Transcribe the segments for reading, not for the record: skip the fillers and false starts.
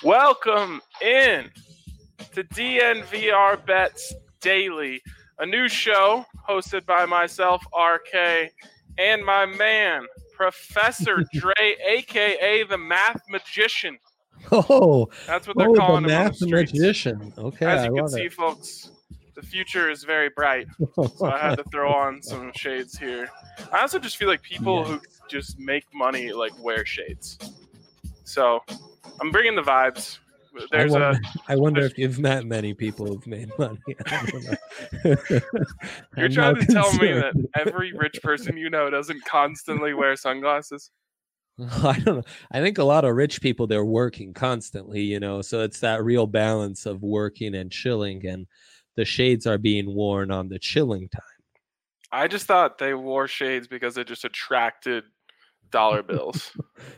Welcome in to DNVR Bets Daily, a new show hosted by myself, RK, and my man, Professor Dre, a.k.a. the Math Magician. Oh, that's what they're calling the him on the Math streets. Magician. Okay, As you I can love see, it. folks, the future is very bright, so I had to throw on some shades here. I also just feel like people who just make money wear shades. So I'm bringing the vibes. I wonder if you've met many people who've made money. I don't know. You're trying to tell me that every rich person you know doesn't constantly wear sunglasses? I don't know. I think a lot of rich people, they're working constantly, so it's that real balance of working and chilling, and the shades are being worn on the chilling time. I just thought they wore shades because it just attracted dollar bills.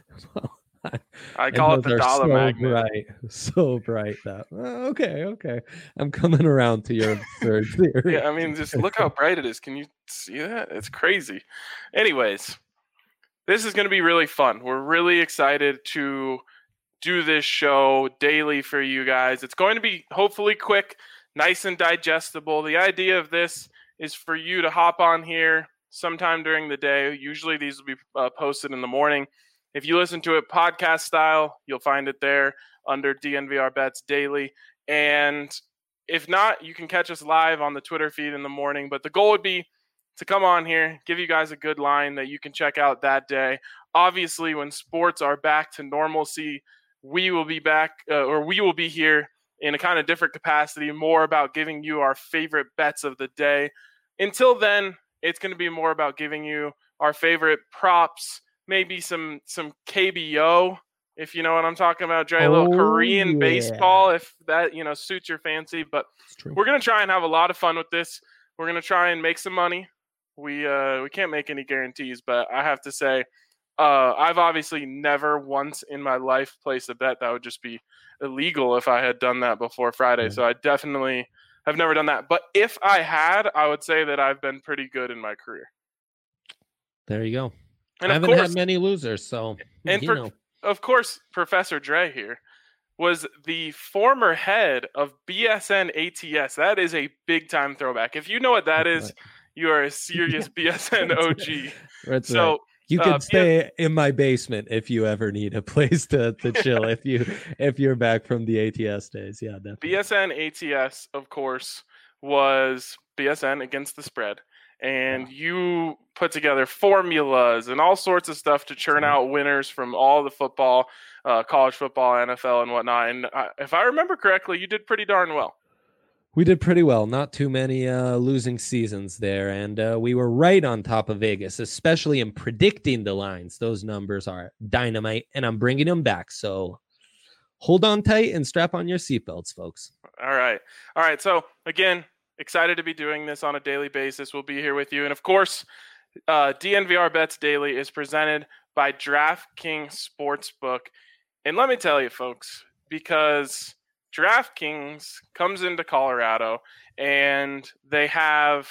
I call it the dollar magnet. So bright that. Okay. I'm coming around to your third theory. Yeah, I mean, just look how bright it is. Can you see that? It's crazy. Anyways, this is going to be really fun. We're really excited to do this show daily for you guys. It's going to be hopefully quick, nice and digestible. The idea of this is for you to hop on here sometime during the day. Usually these will be posted in the morning. If you listen to it podcast style, you'll find it there under DNVR Bets Daily. And if not, you can catch us live on the Twitter feed in the morning. But the goal would be to come on here, give you guys a good line that you can check out that day. Obviously, when sports are back to normalcy, we will be back, or we will be here in a kind of different capacity, more about giving you our favorite bets of the day. Until then, it's going to be more about giving you our favorite props, maybe some KBO, if you know what I'm talking about, Dre. A little Korean baseball, if that suits your fancy. But we're going to try and have a lot of fun with this. We're going to try and make some money. We can't make any guarantees, but I have to say, I've obviously never once in my life placed a bet that would just be illegal if I had done that before Friday. So I definitely have never done that. But if I had, I would say that I've been pretty good in my career. There you go. And I haven't had many losers, so of course, Professor Dre here was the former head of BSN ATS. That is a big time throwback. If you know what that is, you are a serious BSN OG. That's so. Right. You can stay in my basement if you ever need a place to chill. if you're back from the ATS days, yeah, definitely. BSN ATS, of course, was BSN against the spread, and you put together formulas and all sorts of stuff to churn out winners from all the football, college football, NFL, and whatnot. And if I remember correctly, you did pretty darn well. We did pretty well. Not too many losing seasons there. And we were right on top of Vegas, especially in predicting the lines. Those numbers are dynamite, and I'm bringing them back. So hold on tight and strap on your seatbelts, folks. All right. So, again, excited to be doing this on a daily basis. We'll be here with you. And, of course, DNVR Bets Daily is presented by DraftKings Sportsbook. And let me tell you, folks, because DraftKings comes into Colorado and they have,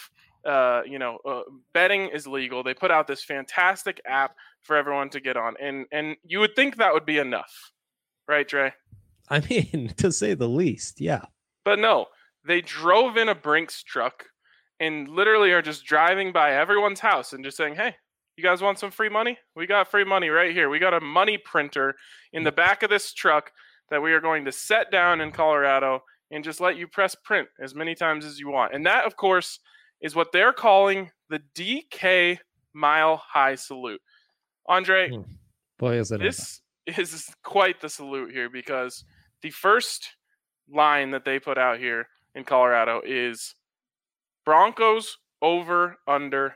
betting is legal. They put out this fantastic app for everyone to get on. And you would think that would be enough, right, Dre? I mean, to say the least, yeah. But no, they drove in a Brinks truck and literally are just driving by everyone's house and just saying, hey, you guys want some free money? We got free money right here. We got a money printer in the back of this truck that we are going to set down in Colorado and just let you press print as many times as you want. And that, of course, is what they're calling the DK Mile High Salute. Andre, boy, is it this is quite the salute here, because the first line that they put out here in Colorado is Broncos over under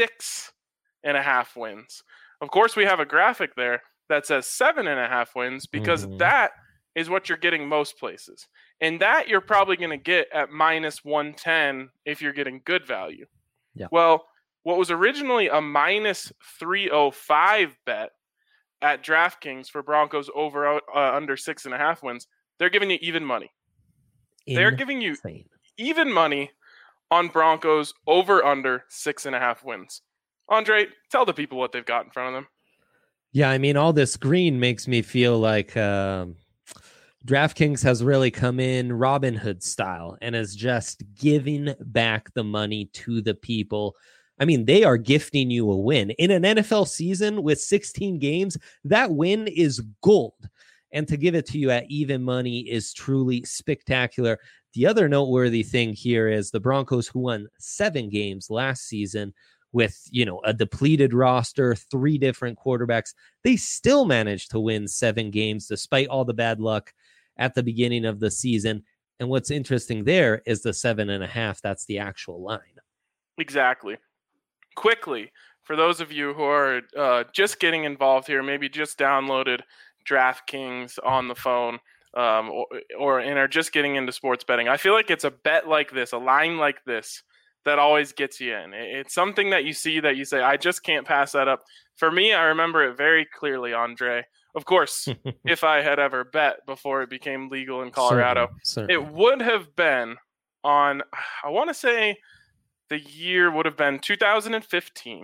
6.5 wins. Of course, we have a graphic there that says 7.5 wins, because that is what you're getting most places. And that you're probably going to get at minus 110 if you're getting good value. Yeah. Well, what was originally a minus 305 bet at DraftKings for Broncos over under 6.5 wins, they're giving you even money. They're giving you even money on Broncos over under 6.5 wins. Andre, tell the people what they've got in front of them. Yeah, I mean, all this green makes me feel like DraftKings has really come in Robin Hood style and is just giving back the money to the people. I mean, they are gifting you a win. In an NFL season with 16 games, that win is gold. And to give it to you at even money is truly spectacular. The other noteworthy thing here is the Broncos, who won 7 games last season with, a depleted roster, 3 different quarterbacks, they still managed to win 7 games despite all the bad luck at the beginning of the season. And what's interesting there is the 7.5. That's the actual line. Exactly. Quickly, for those of you who are just getting involved here, maybe just downloaded DraftKings on the phone or and are just getting into sports betting, I feel like it's a bet like this, a line like this, that always gets you in. It's something that you see that you say, I just can't pass that up. For me, I remember it very clearly, Andre. Of course, if I had ever bet before it became legal in Colorado, certainly. It would have been on, I want to say the year would have been 2015.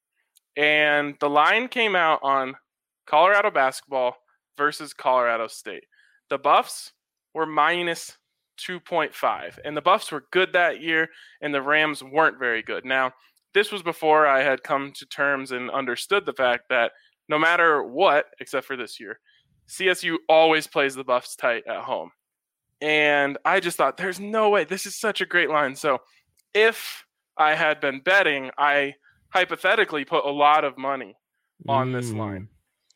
And the line came out on Colorado basketball versus Colorado State. The Buffs were minus 2.5. And the Buffs were good that year, and the Rams weren't very good. Now, this was before I had come to terms and understood the fact that no matter what, except for this year, CSU always plays the Buffs tight at home. And I just thought, there's no way. This is such a great line. So if I had been betting, I hypothetically put a lot of money on this line.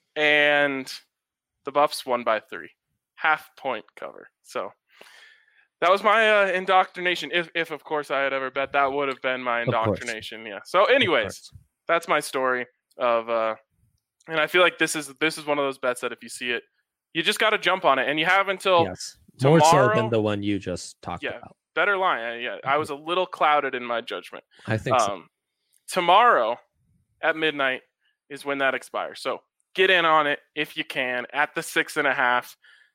And the Buffs won by 3. Half-point cover. So that was my indoctrination. If, of course, I had ever bet, that would have been my indoctrination. Yeah. So anyways, that's my story of and I feel like this is one of those bets that if you see it, you just got to jump on it. And you have until tomorrow. More so than the one you just talked about. Better line. I was a little clouded in my judgment. I think so. Tomorrow at midnight is when that expires. So get in on it if you can at the 6.5.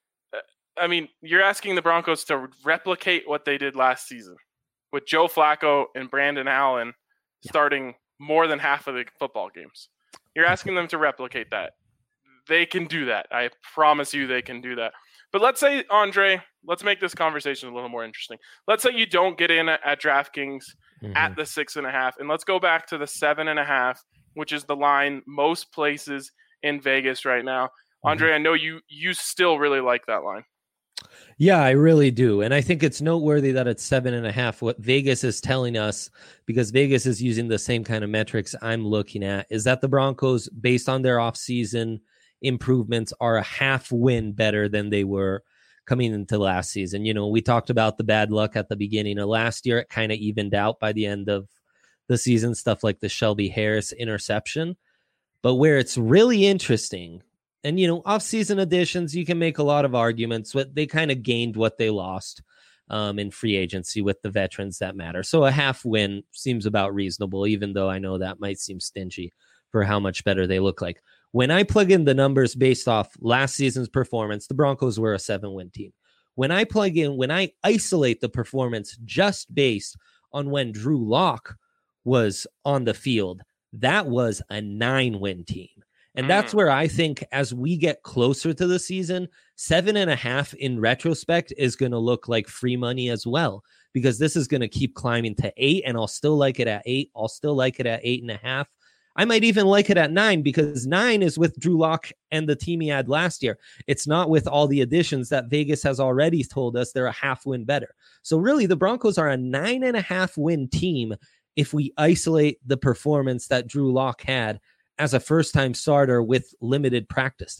I mean, you're asking the Broncos to replicate what they did last season with Joe Flacco and Brandon Allen starting more than half of the football games. You're asking them to replicate that. They can do that. I promise you they can do that. But let's say, Andre, let's make this conversation a little more interesting. Let's say you don't get in at DraftKings at the 6.5, and let's go back to the 7.5, which is the line most places in Vegas right now. Andre, I know you still really like that line. Yeah, I really do. And I think it's noteworthy that it's 7.5. What Vegas is telling us, because Vegas is using the same kind of metrics I'm looking at, is that the Broncos, based on their offseason improvements, are a half win better than they were coming into last season. We talked about the bad luck at the beginning of last year. It kind of evened out by the end of the season, stuff like the Shelby Harris interception. But where it's really interesting, and, off-season additions, you can make a lot of arguments, but they kind of gained what they lost in free agency with the veterans that matter. So a half win seems about reasonable, even though I know that might seem stingy for how much better they look like. When I plug in the numbers based off last season's performance, the Broncos were a 7-win team. When I isolate the performance just based on when Drew Lock was on the field, that was a 9-win team. And that's where I think as we get closer to the season, 7.5 in retrospect is going to look like free money as well, because this is going to keep climbing to 8, and I'll still like it at 8. I'll still like it at 8.5. I might even like it at 9, because 9 is with Drew Lock and the team he had last year. It's not with all the additions that Vegas has already told us they're a half win better. So really, the Broncos are a 9.5 win team if we isolate the performance that Drew Lock had as a first-time starter with limited practice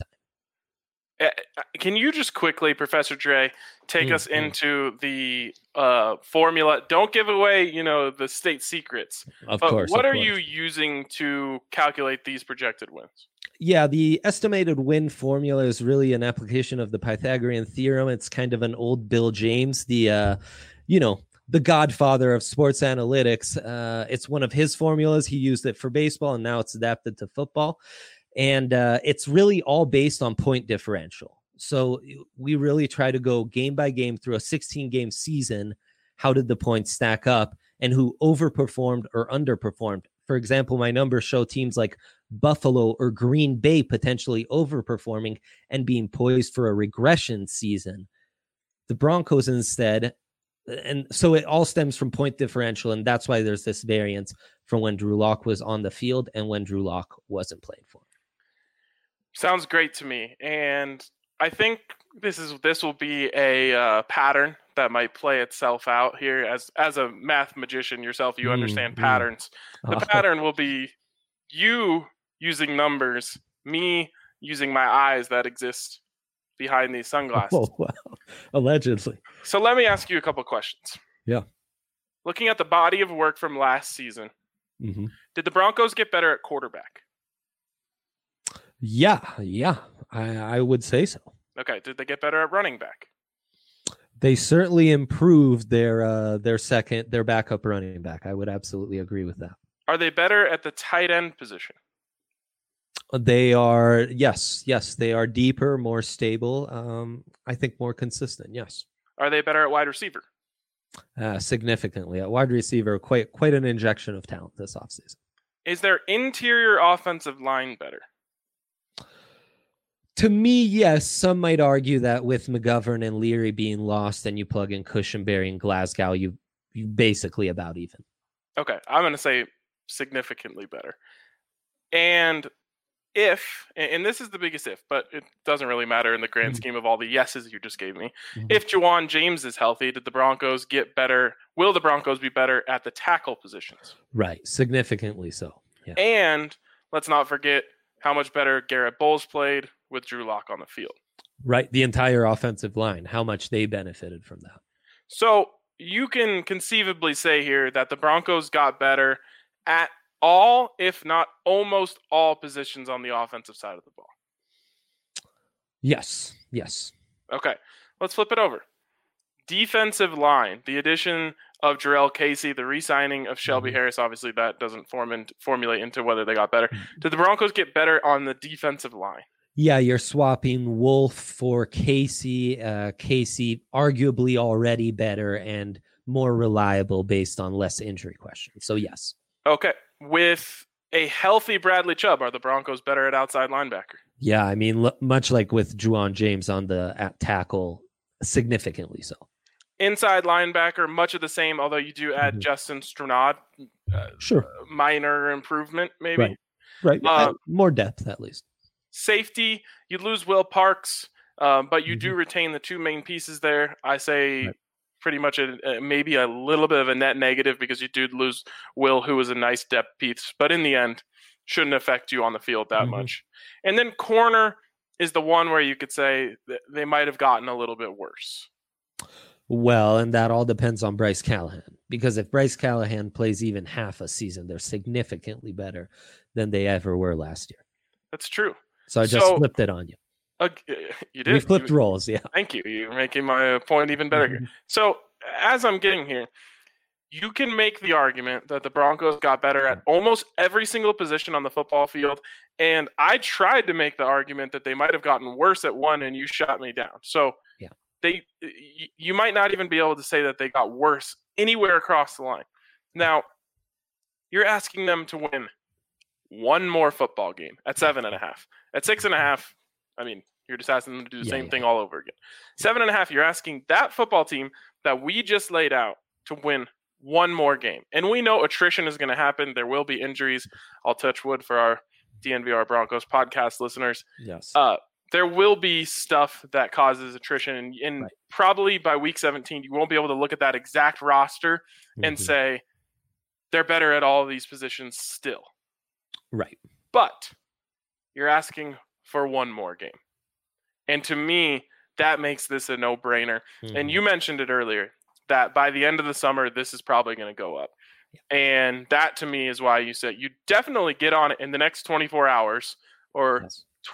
time. Can you just quickly, Professor Dre, take us into the formula? Don't give away, the state secrets. Of course. What are you using to calculate these projected wins? Yeah, the estimated win formula is really an application of the Pythagorean theorem. It's kind of an old Bill James, the godfather of sports analytics. It's one of his formulas. He used it for baseball, and now it's adapted to football. And it's really all based on point differential. So we really try to go game by game through a 16-game season. How did the points stack up, and who overperformed or underperformed? For example, my numbers show teams like Buffalo or Green Bay potentially overperforming and being poised for a regression season. The Broncos instead, and so it all stems from point differential, and that's why there's this variance from when Drew Lock was on the field and when Drew Lock wasn't playing for him. Sounds great to me, and I think this will be a pattern that might play itself out here. As a math magician yourself, you understand patterns. The pattern will be you using numbers, me using my eyes that exist behind these sunglasses. Oh, wow. Allegedly. So let me ask you a couple questions. Yeah. Looking at the body of work from last season, did the Broncos get better at quarterback? Yeah, I would say so. Okay, did they get better at running back? They certainly improved their backup running back. I would absolutely agree with that. Are they better at the tight end position? They are, yes, they are deeper, more stable. I think more consistent. Yes. Are they better at wide receiver? Significantly at wide receiver, quite an injection of talent this offseason. Is their interior offensive line better? To me, yes. Some might argue that with McGovern and Leary being lost, and you plug in Cushenberry and Glasgow, you basically about even. Okay, I'm going to say significantly better. And this is the biggest if, but it doesn't really matter in the grand scheme of all the yeses you just gave me. If Juwan James is healthy, did the Broncos get better? Will the Broncos be better at the tackle positions? Right, significantly so. Yeah. And let's not forget how much better Garrett Bowles played with Drew Lock on the field. Right, the entire offensive line, how much they benefited from that. So you can conceivably say here that the Broncos got better at all, if not almost all, positions on the offensive side of the ball. Yes. Okay, let's flip it over. Defensive line, the addition of Jarrell Casey, the re-signing of Shelby Harris, obviously that doesn't formulate into whether they got better. Did the Broncos get better on the defensive line? Yeah, you're swapping Wolf for Casey. Casey arguably already better and more reliable based on less injury questions. So yes. Okay. With a healthy Bradley Chubb, are the Broncos better at outside linebacker? Yeah, I mean, much like with Juwan James on the at tackle, significantly so. Inside linebacker, much of the same, although you do add Justin Stranad. Sure. Minor improvement, maybe. Right. More depth, at least. Safety, you lose Will Parks, but you do retain the two main pieces there. I say pretty much maybe a little bit of a net negative because you do lose Will, who was a nice depth piece, but in the end, shouldn't affect you on the field that much. And then corner is the one where you could say that they might have gotten a little bit worse. Well, and that all depends on Bryce Callahan, because if Bryce Callahan plays even half a season, they're significantly better than they ever were last year. That's true. So I just flipped it on you. You did. We flipped roles, yeah. Thank you. You're making my point even better here. So as I'm getting here, you can make the argument that the Broncos got better at almost every single position on the football field. And I tried to make the argument that they might have gotten worse at one, and you shot me down. So you might not even be able to say that they got worse anywhere across the line. Now, you're asking them to win one more football game at 7.5. At 6.5, I mean, you're just asking them to do the same thing all over again. 7.5, you're asking that football team that we just laid out to win one more game. And we know attrition is going to happen. There will be injuries. I'll touch wood for our DNVR Broncos podcast listeners. Yes. There will be stuff that causes attrition. And probably by week 17, you won't be able to look at that exact roster and say they're better at all of these positions still. Right. But you're asking for one more game. And to me, that makes this a no-brainer. And you mentioned it earlier, that by the end of the summer, this is probably going to go up. And that, to me, is why you said you definitely get on it in the next 24 hours or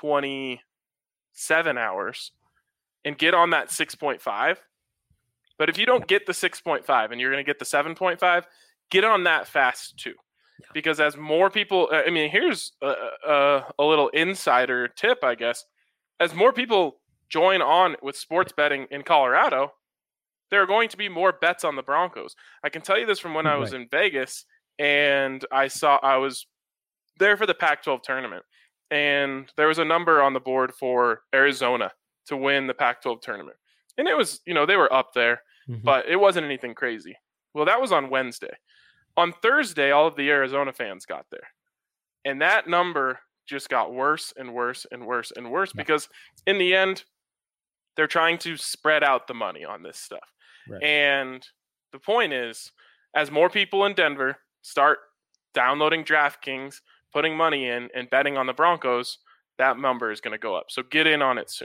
27 hours and get on that 6.5. But if you don't get the 6.5 and you're going to get the 7.5, get on that fast too. Because as more people, I mean, here's a little insider tip, I guess. As more people join on with sports betting in Colorado, there are going to be more bets on the Broncos. I can tell you this from when I was in Vegas. and I was there for the Pac-12 tournament, and there was a number on the board for Arizona to win the Pac-12 tournament. And it was, they were up there, but it wasn't anything crazy. Well, that was on Wednesday. On Thursday, all of the Arizona fans got there. And that number just got worse and worse and worse and worse because in the end, they're trying to spread out the money on this stuff. Right. And the point is, as more people in Denver start downloading DraftKings, putting money in, and betting on the Broncos, that number is going to go up. So get in on it soon.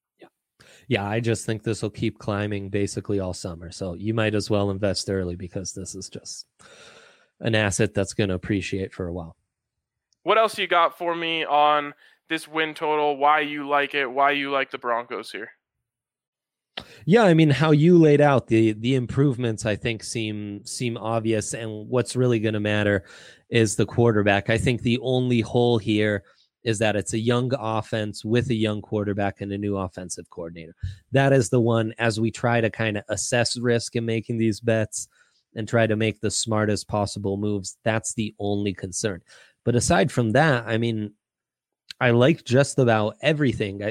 Yeah, I just think this will keep climbing basically all summer. So you might as well invest early because this is just an asset that's going to appreciate for a while. What else you got for me on this win total? Why you like it? Why you like the Broncos here? Yeah, I mean, how you laid out the improvements, I think seem obvious. And what's really going to matter is the quarterback. I think the only hole here is that it's a young offense with a young quarterback and a new offensive coordinator. That is the one, as we try to kind of assess risk in making these bets and try to make the smartest possible moves. That's the only concern. But aside from that, I mean, I like just about everything.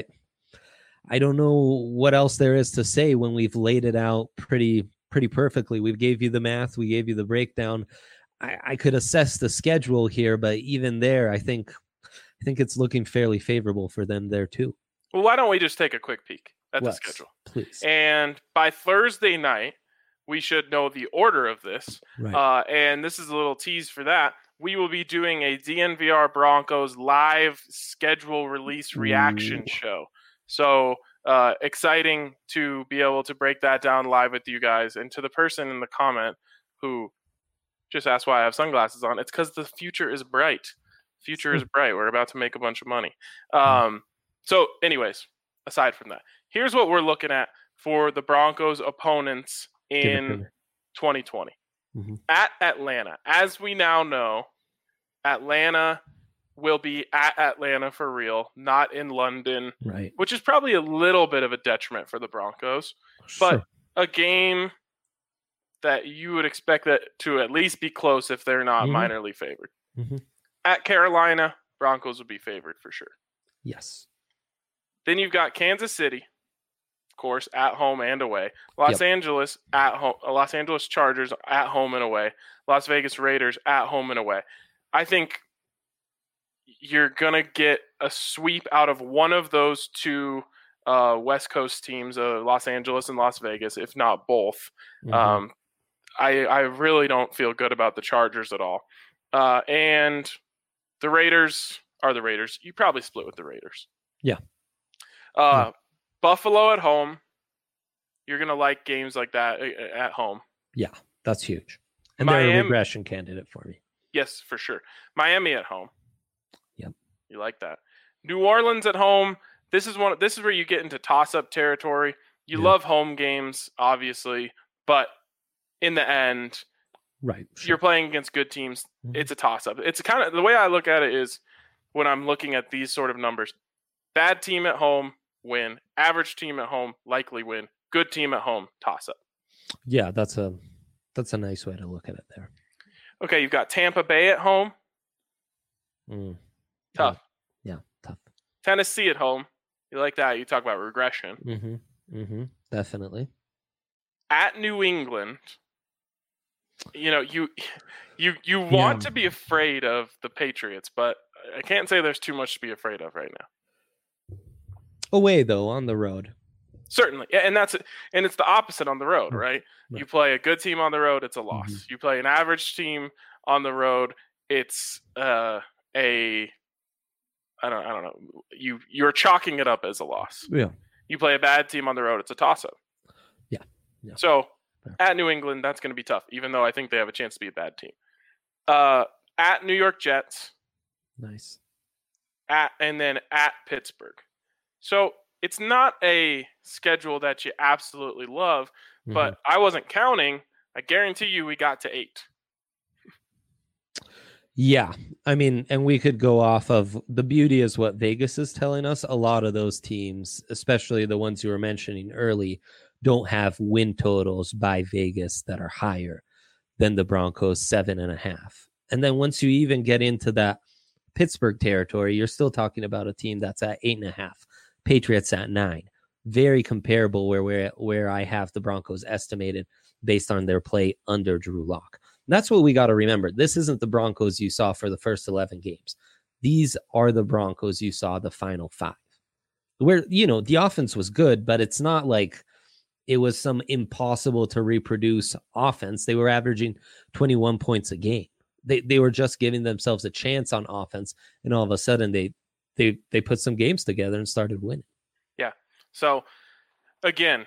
I don't know what else there is to say when we've laid it out pretty perfectly. We gave you the math. We gave you the breakdown. I could assess the schedule here, but even there, I think it's looking fairly favorable for them there too. Well, why don't we just take a quick peek at the schedule? Please. And by Thursday night, we should know the order of this. Right. And this is a little tease for that. We will be doing a DNVR Broncos live schedule release reaction show. So exciting to be able to break that down live with you guys. And to the person in the comment who just asked why I have sunglasses on, it's because the future is bright. Future is bright. We're about to make a bunch of money. So anyways, aside from that, here's what we're looking at for the Broncos opponents in 2020. At Atlanta. As we now know, Atlanta will be at Atlanta for real, not in London, right? Which is probably a little bit of a detriment for the Broncos, but a game that you would expect that to at least be close if they're not minorly favored. At Carolina, Broncos would be favored for sure. Yes. Then you've got Kansas City, of course, at home and away. Los Angeles at home. Los Angeles Chargers at home and away. Las Vegas Raiders at home and away. I think you're going to get a sweep out of one of those two West Coast teams, Los Angeles and Las Vegas, if not both. I really don't feel good about the Chargers at all. And the Raiders are the Raiders. You probably split with the Raiders. Yeah. Buffalo at home. You're going to like games like that at home. Yeah, that's huge. And they're a regression candidate for me. Yes, for sure. Miami at home. Yep. You like that. New Orleans at home. This is where you get into toss-up territory. You love home games, obviously, but in the end, right, you're playing against good teams. It's a toss-up. It's kind of the way I look at it is when I'm looking at these sort of numbers. Bad team at home, win. Average team at home, likely win. Good team at home, toss-up. Yeah, that's a nice way to look at it there. Okay, you've got Tampa Bay at home. Tough. Yeah, tough. Tennessee at home. You like that? You talk about regression. Definitely. At New England, you want to be afraid of the Patriots, but I can't say there's too much to be afraid of right now. Away though, on the road. Certainly, and it's the opposite on the road, right? You play a good team on the road, it's a loss. You play an average team on the road, it's I don't know. You're chalking it up as a loss. Yeah. You play a bad team on the road, it's a toss-up. Yeah. So at New England, that's going to be tough, even though I think they have a chance to be a bad team. At New York Jets. Nice. And then at Pittsburgh. So it's not a schedule that you absolutely love, but I wasn't counting. I guarantee you we got to 8. Yeah. I mean, and we could go off of the beauty is what Vegas is telling us. A lot of those teams, especially the ones you were mentioning early, don't have win totals by Vegas that are higher than the Broncos 7.5. And then once you even get into that Pittsburgh territory, you're still talking about a team that's at 8.5, Patriots at 9. Very comparable where I have the Broncos estimated based on their play under Drew Lock. That's what we got to remember. This isn't the Broncos you saw for the first 11 games. These are the Broncos you saw the final 5. Where, the offense was good, but it's not like it was some impossible to reproduce offense. They were averaging 21 points a game. They were just giving themselves a chance on offense, and all of a sudden they put some games together and started winning. Yeah. So again,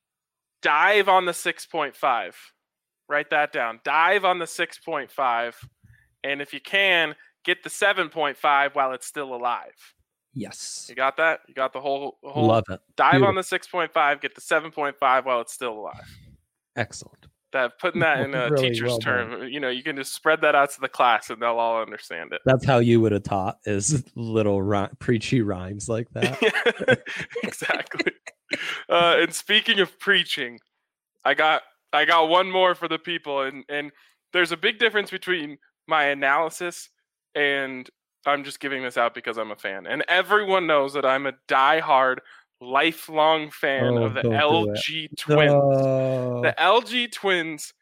dive on the 6.5. Write that down. Dive on the 6.5, and if you can, get the 7.5 while it's still alive. Yes. You got that? You got the whole Love it. Dive Beautiful. on the 6.5, get the 7.5 while it's still alive. Excellent. Putting that in a Really teacher's well term, you can just spread that out to the class and they'll all understand it. That's how you would have taught, is little preachy rhymes like that. Yeah, exactly. And speaking of preaching, I got one more for the people, and there's a big difference between my analysis and I'm just giving this out because I'm a fan. And everyone knows that I'm a diehard, lifelong fan of the LG Twins. The LG Twins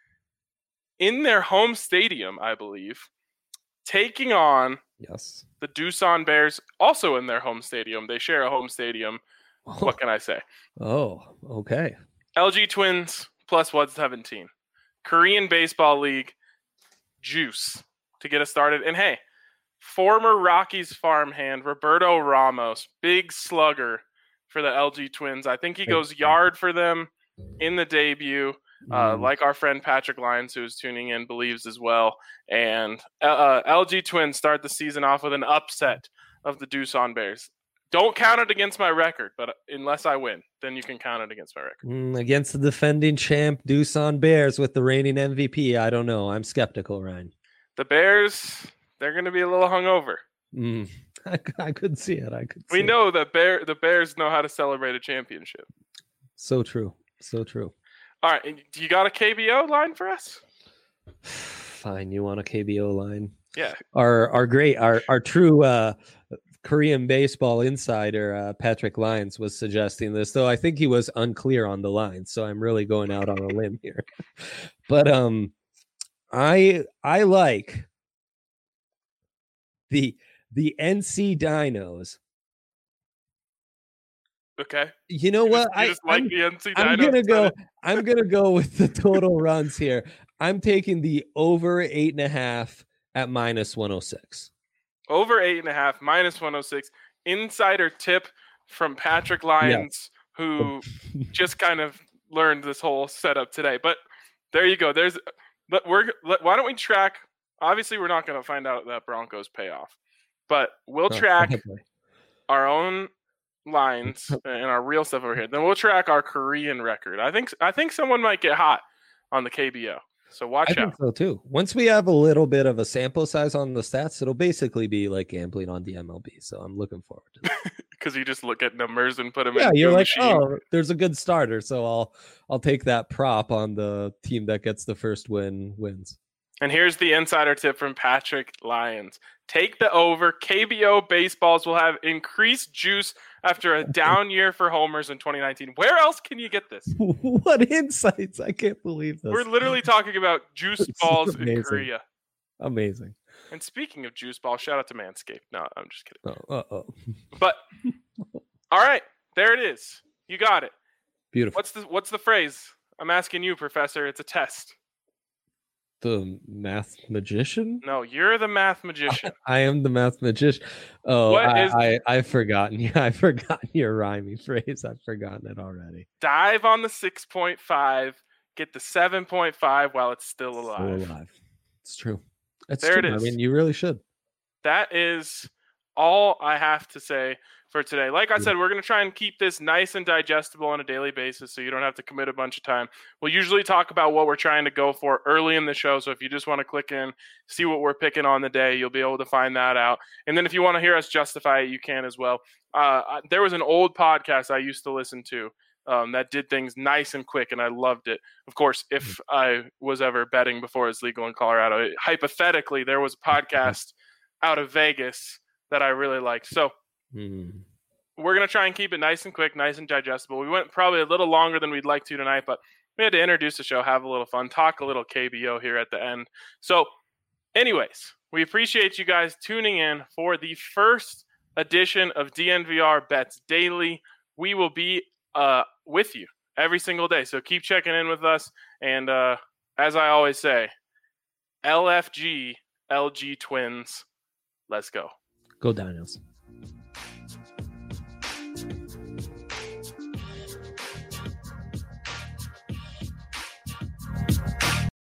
in their home stadium, I believe, taking on the Doosan Bears, also in their home stadium. They share a home stadium. Oh. What can I say? Oh, okay. LG Twins plus 117. Korean Baseball League juice to get us started. And hey, former Rockies farmhand Roberto Ramos, big slugger for the LG Twins. I think he goes yard for them in the debut, like our friend Patrick Lyons, who's tuning in, believes as well. And LG Twins start the season off with an upset of the Doosan Bears. Don't count it against my record, but unless I win, then you can count it against my record. Against the defending champ Doosan Bears with the reigning MVP, I don't know. I'm skeptical, Ryan. The Bears, they're going to be a little hungover. I could see it. We know that the Bears know how to celebrate a championship. So true. So true. All right. Do you got a KBO line for us? Fine. You want a KBO line? Yeah. Our true Korean baseball insider, Patrick Lyons, was suggesting this, though I think he was unclear on the line. So I'm really going out on a limb here. But I like the NC Dinos. Okay. You know what? I'm gonna go with the total runs here. I'm taking the over 8.5 at -106. Over 8.5, -106. Insider tip from Patrick Lyons, who just kind of learned this whole setup today. But there you go. Why don't we track? Obviously, we're not going to find out that Broncos payoff, but we'll track our own lines and our real stuff over here. Then we'll track our Korean record. I think someone might get hot on the KBO. So watch out. I think so too. Once we have a little bit of a sample size on the stats, it'll basically be like gambling on the MLB. So I'm looking forward to that. Because you just look at numbers and put them in. Yeah, you're like, machine. Oh, there's a good starter, so I'll take that prop on the team that gets the first wins. And here's the insider tip from Patrick Lyons. Take the over. KBO baseballs will have increased juice after a down year for homers in 2019. Where else can you get this? What insights? I can't believe this. We're literally talking about juice balls in Korea. Amazing. And speaking of juice balls, shout out to Manscaped. No, I'm just kidding. But all right, there it is. You got it. Beautiful. What's the phrase? I'm asking you, Professor. It's a test. The math magician? No, you're the math magician. I am the math magician. Oh, I've forgotten. Yeah, I've forgotten your rhyming phrase. I've forgotten it already. Dive on the 6.5. Get the 7.5 while it's still alive. It's true. It's there true. It is. I mean, you really should. That is all I have to say for today. Like I said, we're going to try and keep this nice and digestible on a daily basis so you don't have to commit a bunch of time. We'll usually talk about what we're trying to go for early in the show. So if you just want to click in, see what we're picking on the day, you'll be able to find that out. And then if you want to hear us justify it, you can as well. There was an old podcast I used to listen to that did things nice and quick, and I loved it. Of course, if I was ever betting before it's legal in Colorado, hypothetically, there was a podcast out of Vegas that I really liked. So we're going to try and keep it nice and quick, nice and digestible. We went probably a little longer than we'd like to tonight, but we had to introduce the show, have a little fun, talk a little KBO here at the end. So anyways, we appreciate you guys tuning in for the first edition of DNVR Bets Daily. We will be with you every single day, so keep checking in with us. And as I always say, LFG, LG Twins, let's go. Go Dinos.